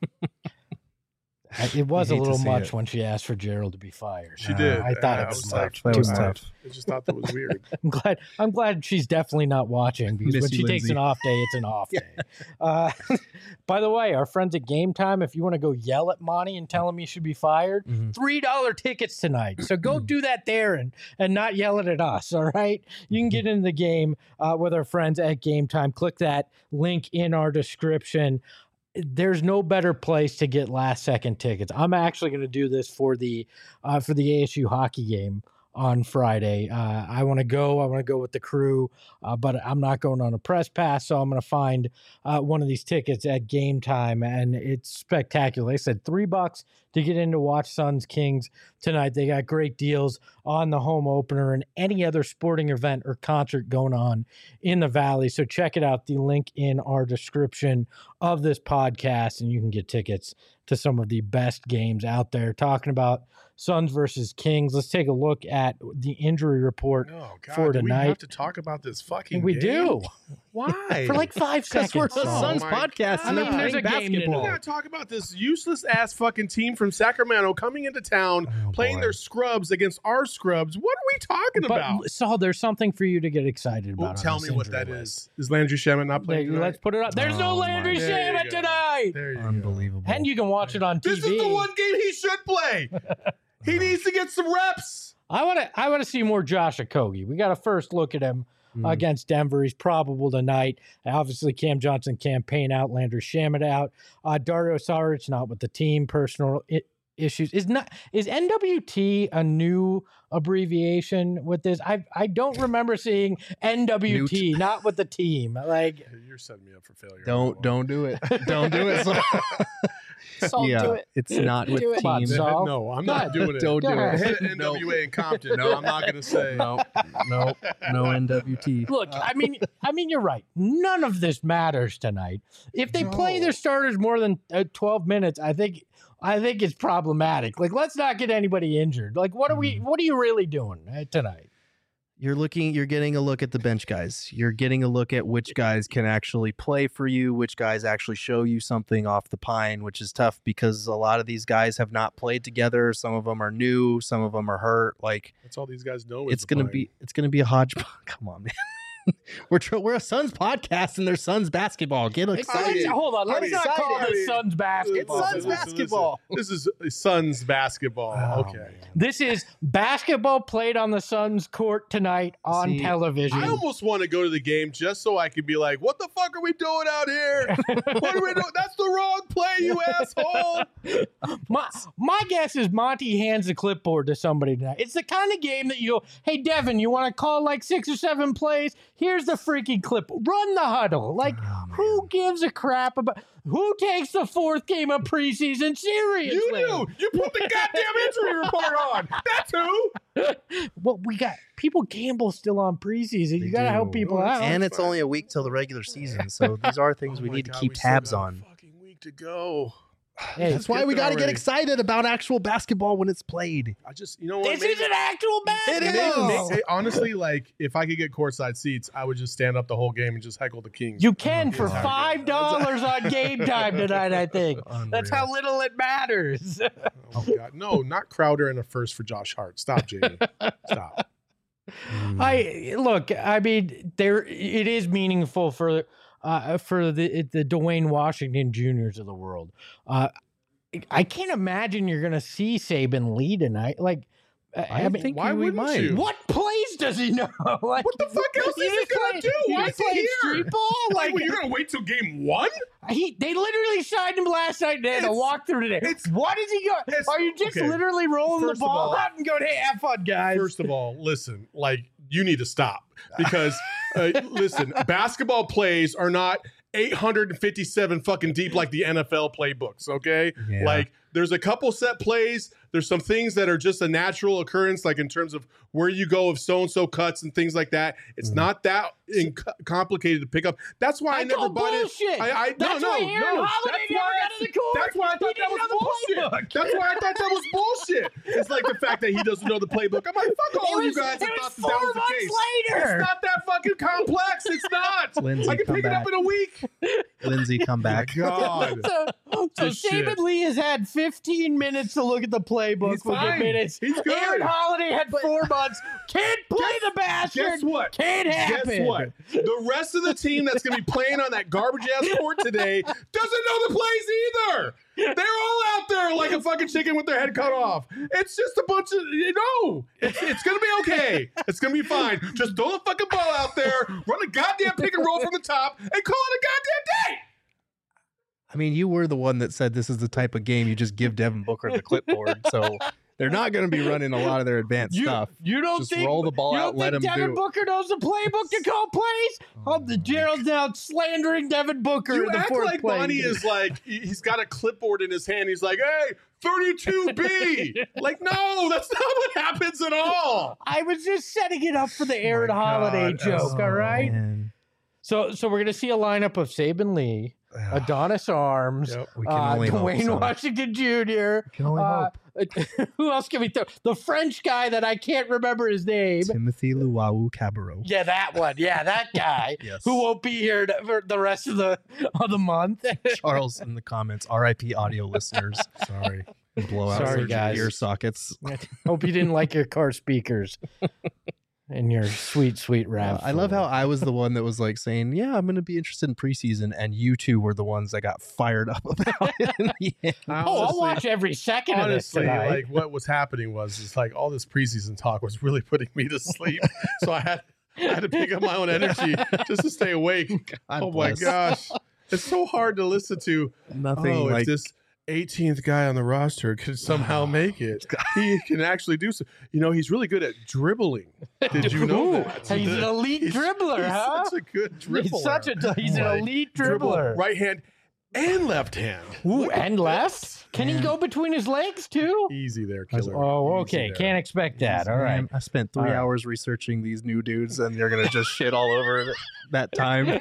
I- It was a hate to little see much it. when she asked for Gerald to be fired. She Uh, did. I thought Uh, it was like, tough. That was too tough. much. I just thought that was weird. I'm glad. I'm glad she's definitely not watching because Miss when you, she takes Lindsay. an off day, it's an off day. Uh, by the way, our friends at Game Time, if you want to go yell at Monty and tell him he should be fired, Mhm. three dollar tickets tonight. So go do that there and and not yell it at us. All right, you can get into the game uh, with our friends at Game Time. Click that link in our description. There's no better place to get last second tickets. I'm actually going to do this for the uh, for the A S U hockey game on Friday. Uh, I want to go. I want to go with the crew, uh, but I'm not going on a press pass, so I'm going to find uh, one of these tickets at Game Time, and it's spectacular. Like I said, three bucks to get in to watch Suns Kings tonight. They got great deals on the home opener and any other sporting event or concert going on in the Valley. So check it out. The link in our description of this podcast, and you can get tickets to some of the best games out there. Talking about Suns versus Kings, let's take a look at the injury report Oh God, for do we tonight. have to talk about this fucking we game? do. Why? for like five Because we're seconds. a Oh Suns my podcast God. and I they're mean, there's playing a game to We basketball. gotta talk about this useless ass fucking team from Sacramento coming into town, Oh, playing boy. their scrubs against our scrubs. What are we talking But about? Saul, there's something for you to get excited Well, about. on tell this me what injury that list. is. Is Landry Shamet not There, playing tonight? let's put it up. There's no Oh, my Landry God. There you Shamet go. tonight. There you go. Unbelievable. And you can watch it on T V. This is the one game he should play. He needs to get some reps. I want to. I want to see more Josh Okogie. We got a first look at him Mm. against Denver. He's probable tonight. Obviously, Cam Johnson campaign out. Landry Shamet out. Uh, Dario Saric not with the team. Personal I- issues. Is not is N W T a new abbreviation with this? I I don't remember seeing N W T not with the team. Like You're setting me up for failure. Don't don't do it. Don't do it. Saul, yeah, do it. it's not with Do it. team. Saul. No, I'm Go not ahead. doing it. Don't Go do ahead. it. Hit N W A in Compton. No, I'm not going to say. No, no, no N W T. Look, I mean, I mean, you're right. None of this matters tonight. If they play No. their starters more than uh, twelve minutes, I think, I think it's problematic. Like, let's not get anybody injured. Like, what are we? What are you really doing uh, tonight? You're looking, you're getting a look at the bench guys. You're getting a look at which guys can actually play for you, which guys actually show you something off the pine, which is tough because a lot of these guys have not played together. Some of them are new, some of them are hurt. Like That's all these guys know. Is it's the gonna pine. be, it's gonna be a hodgepodge. Come on, man. we're tr- we're a Suns podcast and there's Suns basketball. Get excited. Let's- hold on. I Let's mean, not call excited. this Suns basketball. It's Suns Listen, listen, basketball. listen. This is Suns basketball. Oh, okay. man. This is basketball played on the Suns court tonight on See, television. I almost want to go to the game just so I could be like, "What the fuck are we doing out here? What are we doing? That's the wrong play, you asshole!" My my guess is Monty hands a clipboard to somebody tonight. It's the kind of game that you go, hey Devin, you want to call like six or seven plays? Here's the freaking clip. Run the huddle. Like, Oh, who gives a crap about who takes the fourth game of preseason seriously? You do. You put the goddamn injury report on. That's who. Well, we got people gamble still on preseason. You They got to do. help people Oh, out. And it's only a week till the regular season, so these are things Oh we my need to God, keep we still tabs got a on. Fucking week to go. Hey, That's why get we there got to get already. excited about actual basketball when it's played. I just, you know what? this maybe- is an actual It basketball. is. Hey, honestly, like if I could get courtside seats, I would just stand up the whole game and just heckle the Kings. You can for Yeah. five dollars on game time tonight. I think that's Unreal. how little it matters. Oh God, no, not Crowder and a first for Josh Hart. Stop, Jamie. Stop. Mm. I look. I mean, there it is meaningful for uh, for the the Dwayne Washington Juniors of the world. Uh, I can't imagine you're going to see Saban Lee tonight. Like, I, I mean, think why we wouldn't might. you? what plays does he know? Like, What the fuck else you is he just gonna play- do? you Why just is he play here? street ball? Like, Like, well, you're gonna wait till game one? he they literally signed him last night. They had a It's- walkthrough today. it's- What is he going? it's- Are you just okay. literally rolling First the of ball all- out and going, "Hey, have fun, guys"? First of all, listen, like you need to stop because uh, listen, basketball plays are not eight hundred fifty-seven fucking deep like the N F L playbooks. Okay, Yeah. like there's a couple set plays. There's some things that are just a natural occurrence, like in terms of where you go if so and so cuts and things like that. It's Mhm. not that in- complicated to pick up. That's why I, I never call bought it. bullshit. I, I That's no, why no, Aaron no. Holiday That's never why got to the court. That's why I He thought that didn't was know the bullshit. playbook. That's why I thought that was bullshit. It's like the fact that he doesn't know the playbook. I'm like, fuck all It you was- guys it that was thought that, four that was the months case. later. It's not that fucking complex. It's not. Lindsay, I can come pick it back. up in a week. Lindsay, come back. God. So, so This Saban shit. Lee has had fifteen minutes to look at the playbook. He's We'll get fine. minutes. He's good. Aaron Holiday had four months. Can't play the bastard. Guess what? Can't happen. Guess what? The rest of the team that's going to be playing on that garbage ass court today doesn't know the plays either. They're all out there like a fucking chicken with their head cut off. It's just a bunch of, you know, it's, it's going to be okay. It's going to be fine. Just throw the fucking ball out there, run a goddamn pick and roll from the top, and call it a goddamn day. I mean, you were the one that said this is the type of game you just give Devin Booker the clipboard, so they're not going to be running a lot of their advanced You, stuff. you don't Just think roll the ball you out, don't let think him Devin do it. Booker knows the playbook to call plays? Oh, the Gerald's now slandering Devin Booker You in the act fourth like play. Bonnie is like, he- he's got a clipboard in his hand. He's like, hey, thirty-two B. Like, no, that's not what happens at all. I was just setting it up for the Aaron my Holiday God. joke. Oh, all right. man. So, so we're gonna see a lineup of Saban Lee, Adonis Arms, Yep. We can uh, only hope Dwayne so. Washington Junior We can only uh, hope. who else can we throw? The French guy that I can't remember his name. Timothy Luau Cabarro. Yeah, that one. Yeah, that guy Yes. who won't be here to, for the rest of the of the month. Charles in the comments, R I P audio listeners. Sorry. Blow out Sorry, your guys. ear sockets. Hope you didn't like your car speakers and your sweet, sweet rap. I love how I was the one that was like saying, yeah, I'm going to be interested in preseason. And you two were the ones that got fired up about it in the end. Oh, I'll Honestly- watch every second Honestly, of this tonight. like what was happening was just like all this preseason talk was really putting me to sleep. So I had I had to pick up my own energy just to stay awake. God oh bless. my gosh. It's so hard to listen to. Nothing oh, like if this eighteenth guy on the roster could somehow make it, he can actually do so. You know, he's really good at dribbling. Did you know Ooh, that? he's an elite He's- dribbler, he's huh? Such a good dribbler. He's such a he's an Like, elite dribble dribbler. right hand and left hand. Ooh, Look at and this. left? Can he go between his legs too? Easy there, I was- killer. Oh, Easy okay. there. Can't expect that. All right. Man, I spent three All right. hours researching these new dudes, and they're gonna just shit all over that time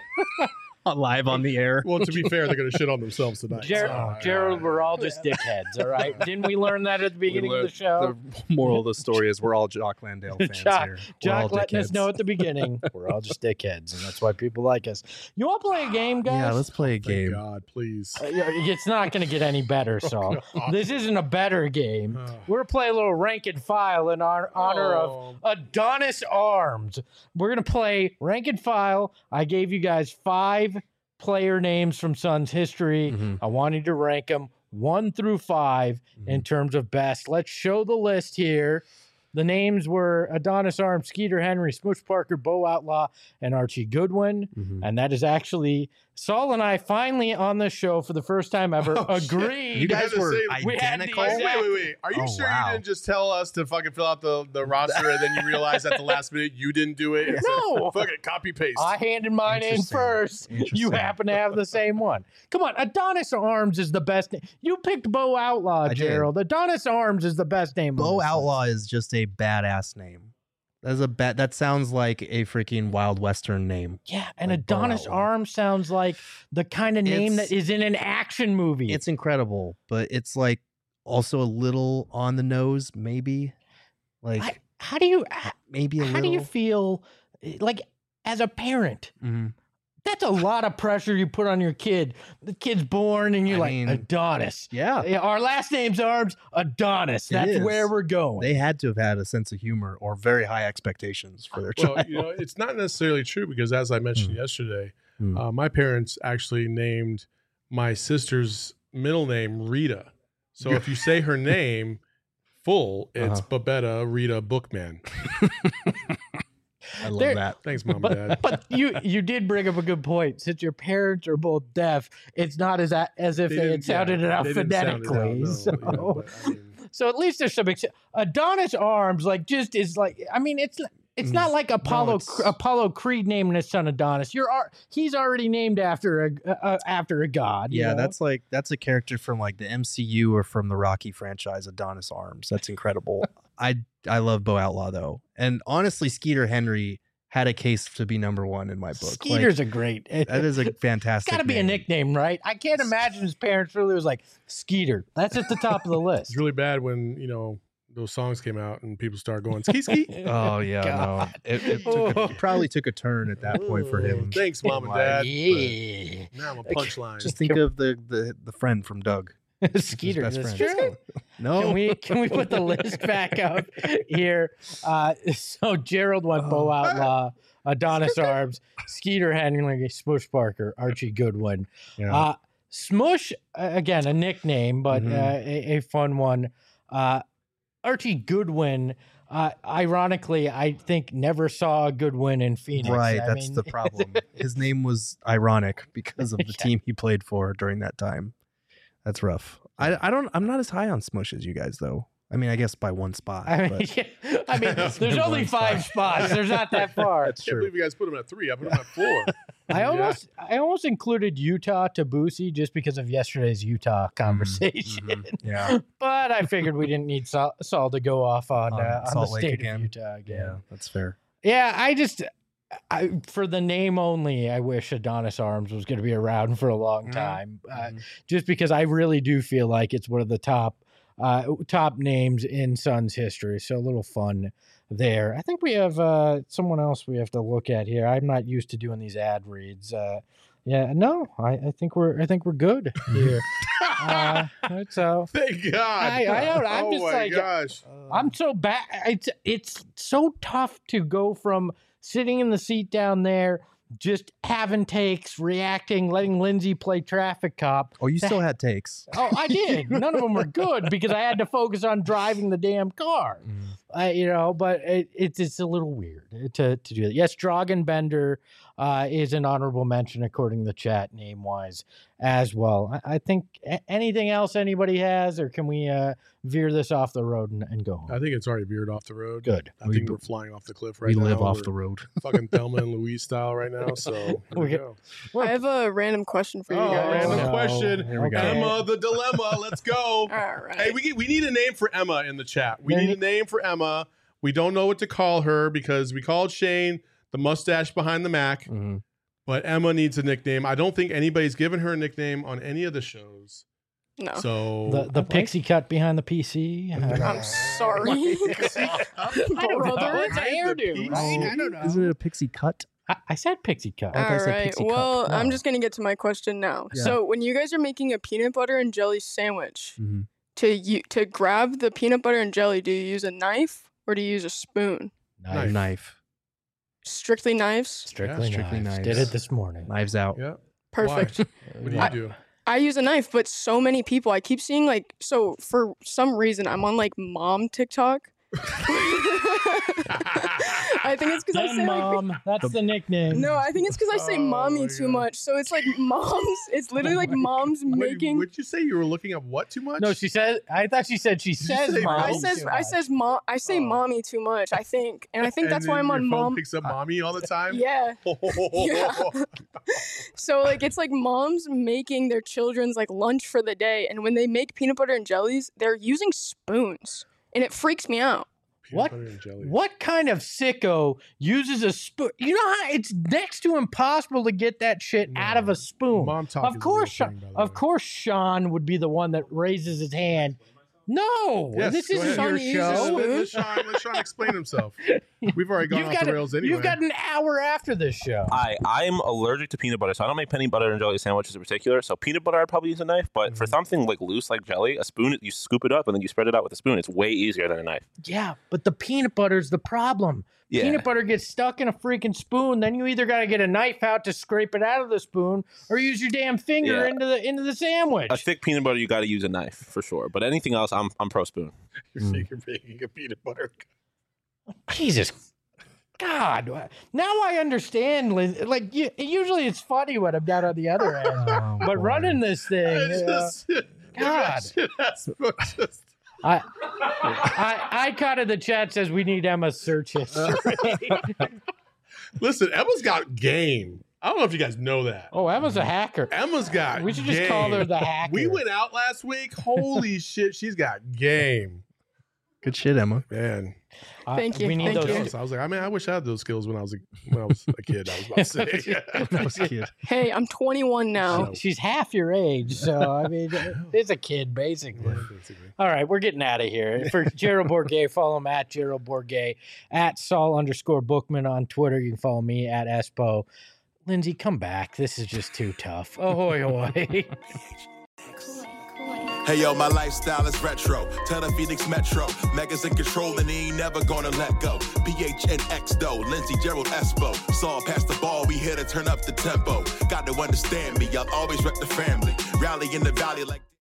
live on the air. Well, to be fair, they're going to shit on themselves tonight. Ger- so- Gerald, we're all just dickheads, all right? Didn't we learn that at the beginning of the show? The moral of the story is we're all Jock Landale fans Jock- here. We're all Jock letting us dickheads. know at the beginning we're all just dickheads, and that's why people like us. You want to play a game, guys? Yeah, let's play a Thank game. God, please. Uh, yeah, It's not going to get any better, Saul. God. This isn't a better game. Oh. We're playing a little rank and file in our honor of Oh. Adonis Arms. We're going to play rank and file. I gave you guys five player names from Suns history. Mhm. I wanted to rank them one through five in terms of best. Let's show the list here. The names were Adonis Arms, Skeeter Henry, Smoosh Parker, Bo Outlaw, and Archie Goodwin. Mhm. And that is actually Saul and I finally on this show for the first time ever Oh, shit. agreed. You guys had to were say- we had the identical. Wait, exact- wait, wait, wait. Are you Oh, sure wow. you didn't just tell us to fucking fill out the, the roster and then you realize at the last minute you didn't do it? And No. said, fuck it, copy paste. I handed mine in Interesting. first. You Interesting. happen to have the same one. Come on, Adonis Arms is the best name. You picked Bo Outlaw, I did. Gerald. Adonis Arms is the best name. on Bo this Outlaw list. is just a badass name. That's a bat. That sounds like a freaking Wild Western name. Yeah, and Like Bo Adonis Outlaw. Arms sounds like the kind of name It's- that is in an action movie. It's incredible, but it's like also a little on the nose, maybe. Like I, how do you how, maybe a how little. do you feel like as a parent? Mhm. That's a lot of pressure you put on your kid. The kid's born, and you're I like mean, Adonis. Yeah, Yeah, our last name's Arms, Adonis. It That's is. where we're going. they had to have had a sense of humor or very high expectations for their well, child. you know, it's not necessarily true because as I mentioned yesterday, Hmm. uh, my parents actually named my sister's middle name Rita. So if you say her name full, it's Uh-huh. Babetta Rita Bookman. I love There- that. Thanks, mom and dad. But you you did bring up a good point. Since your parents are both deaf, it's not as a- as if they, had didn't- sounded yeah, it out they didn't sound it out, phonetically. no, so, you know, but, I mean, so at least there's some ex- Adonis Arms, like just is like. I mean, it's it's not like Apollo it's- Apollo Creed naming his son Adonis. You're ar- he's already named after a uh, after a god. you Yeah, know? that's like that's a character from like the M C U or from the Rocky franchise, Adonis Arms. That's incredible. I I love Bo Outlaw though, and honestly, Skeeter Henry had a case to be number one in my book. Like, Skeeter's a great. that is a fantastic. Got to be a name. nickname, right? I can't imagine his parents really was like Skeeter. That's at the top of the list. it's really bad when, you know, those songs came out and people started going ski ski. Oh yeah, no, God. it, it, took a, it probably took a turn at that point for him. Thanks, mom and Like, dad. Yeah. Now I'm a punchline. Just think of the the the friend from Doug. Skeeter, best that's friend. true. No, Can we can we put the list back up here? Uh, so Gerald went Bo Outlaw, Adonis Arms, Skeeter Henry, Smush Parker, Archie Goodwin. Yeah. Uh, Smush, uh, again, a nickname, but Mhm. uh, a, a fun one. Uh, Archie Goodwin, uh, ironically, I think never saw a Goodwin in Phoenix. right. I That's mean, the problem. His name was ironic because of the Yeah. team he played for during that time. That's rough. I I don't. I'm not as high on Smush as you guys though. I mean, I guess by one spot. I mean, but yeah, I mean there's only One five spot. spots. There's not that far. That's I can't true. believe you guys put him at three. I put him at four. I Yeah. almost I almost included Utah to Boosie just because of yesterday's Utah conversation. Mhm. Yeah. But I figured we didn't need Saul, Saul to go off on, On uh, on the Salt Lake state again. of Utah Yeah. again. That's fair. Yeah, I just I, for the name only, I wish Adonis Arms was going to be around for a long Mhm. time, uh, Mhm. just because I really do feel like it's one of the top uh, top names in Suns history. So a little fun there. I think we have uh, someone else we have to look at here. I'm not used to doing these ad reads. Uh, yeah, no, I, I think we're I think we're good here. uh, so Thank God. I, I don't. I'm oh just my like gosh. I'm so bad. It's it's so tough to go from sitting in the seat down there, just having takes, reacting, letting Lindsay play traffic cop. Oh, you to- still had takes. Oh, I did. None of them were good because I had to focus on driving the damn car. I, you know, but it, it's it's a little weird to to do that. Yes, Drogenbender uh, is an honorable mention according to the chat name wise as well. I, I think a- anything else anybody has, or can we uh, veer this off the road and, and go home? I think it's already veered off the road. Good. I We think b- we're flying off the cliff right We now. live off We're the road. fucking Thelma and Louise style right now. So here we Okay. go. I have a random question for you Oh, guys. random no. question. Here we go. Emma, the dilemma. Let's go. All right. Hey, we we need a name for Emma in the chat. We There need ne- a name for Emma. We don't know what to call her because we called Shane the mustache behind the Mac, Mm-hmm. but Emma needs a nickname. I don't think anybody's given her a nickname on any of the shows. no. So The the pixie cut behind the P C. I'm sorry. I don't know. Brother. It's a hairdo, right? I don't know. Isn't it a pixie cut? I, I said pixie cut. I thought I All said right. pixie cut. Well, I'm No. just gonna get to my question now. Yeah. So, when you guys are making a peanut butter and jelly sandwich, Mhm. to you to grab the peanut butter and jelly, do you use a knife or do you use a spoon? Knife. Knife. Strictly knives. Strictly, Yeah, strictly knives. knives. Did it this morning. Knives out. yeah. Perfect. What do you I- do? I use a knife, but so many people, I keep seeing like, so for some reason, I'm on like mom TikTok. I think it's because I Den say like, mom. That's the nickname. no, I think it's because I say Oh mommy my too God. much. So it's like moms. It's literally Oh like my moms Wait, making. Would you say you were looking up what too much? No, she said. I thought she said she you says say mom. I moms? says too I much. says mom. I say Oh. mommy too much. I think, and I think And that's why then I'm on your phone mom. picks up mommy all the time. Yeah. Yeah. So like it's like moms making their children's like lunch for the day, and when they make peanut butter and jellies, they're using spoons, and it freaks me out. Peanut What? butter and jelly. What kind of sicko uses a spoon? You know how it's next to impossible to get that shit out of No. a spoon. Mom talk is Of a course, real thing, by the of way. course, Sean would be the one that raises his hand. No, Yes, this go isn't ahead. your Sean uses show. spoon. Let Sean, let Sean explain himself. We've already gone You've off got, the a- rails anyway. you've got an hour after this show. I I'm allergic to peanut butter, so I don't make peanut butter and jelly sandwiches in particular. So peanut butter, I'd probably use a knife. But for something like loose, like jelly, a spoon, you scoop it up and then you spread it out with a spoon. It's way easier than a knife. Yeah, but the peanut butter's the problem. Yeah. Peanut butter gets stuck in a freaking spoon. Then you either got to get a knife out to scrape it out of the spoon, or use your damn finger Yeah. into the into the sandwich. A thick peanut butter, you got to use a knife for sure. But anything else, I'm I'm pro spoon. You're saying you're making a peanut butter. Jesus, God! Now I understand. Liz. Like you, usually it's funny when I'm down on the other end, Oh, but boy. running this thing, I uh, just, God. That's just, I, I, I caught in the chat says we need Emma's search history. listen, Emma's got game. I don't know if you guys know that. Oh, Emma's a hacker. Emma's got We should just call her game. the hacker. We went out last week. Holy shit, she's got game. Good shit, Emma. Man. Uh, Thank you, We need thank those. you. I was like, I mean, I wish I had those skills when I was a, when I was a kid. I was about to say. That was cute. Hey, I'm twenty-one now. She's half your age, so I mean, it's a kid basically. All right, we're getting out of here. For Gerald Bourget, follow him at Gerald Bourget, at Saul underscore Bookman on Twitter. You can follow me at Espo. Lindsay, come back. This is just too tough. Ahoy, hoy. Hey yo, my lifestyle is retro. Tell the Phoenix Metro. Megas in control and he ain't never gonna let go. P H N X though, Lindsay, Gerald, Espo. Saw pass the ball, we here to turn up the tempo. Got to understand me, I'll always rep the family. Rally in the valley like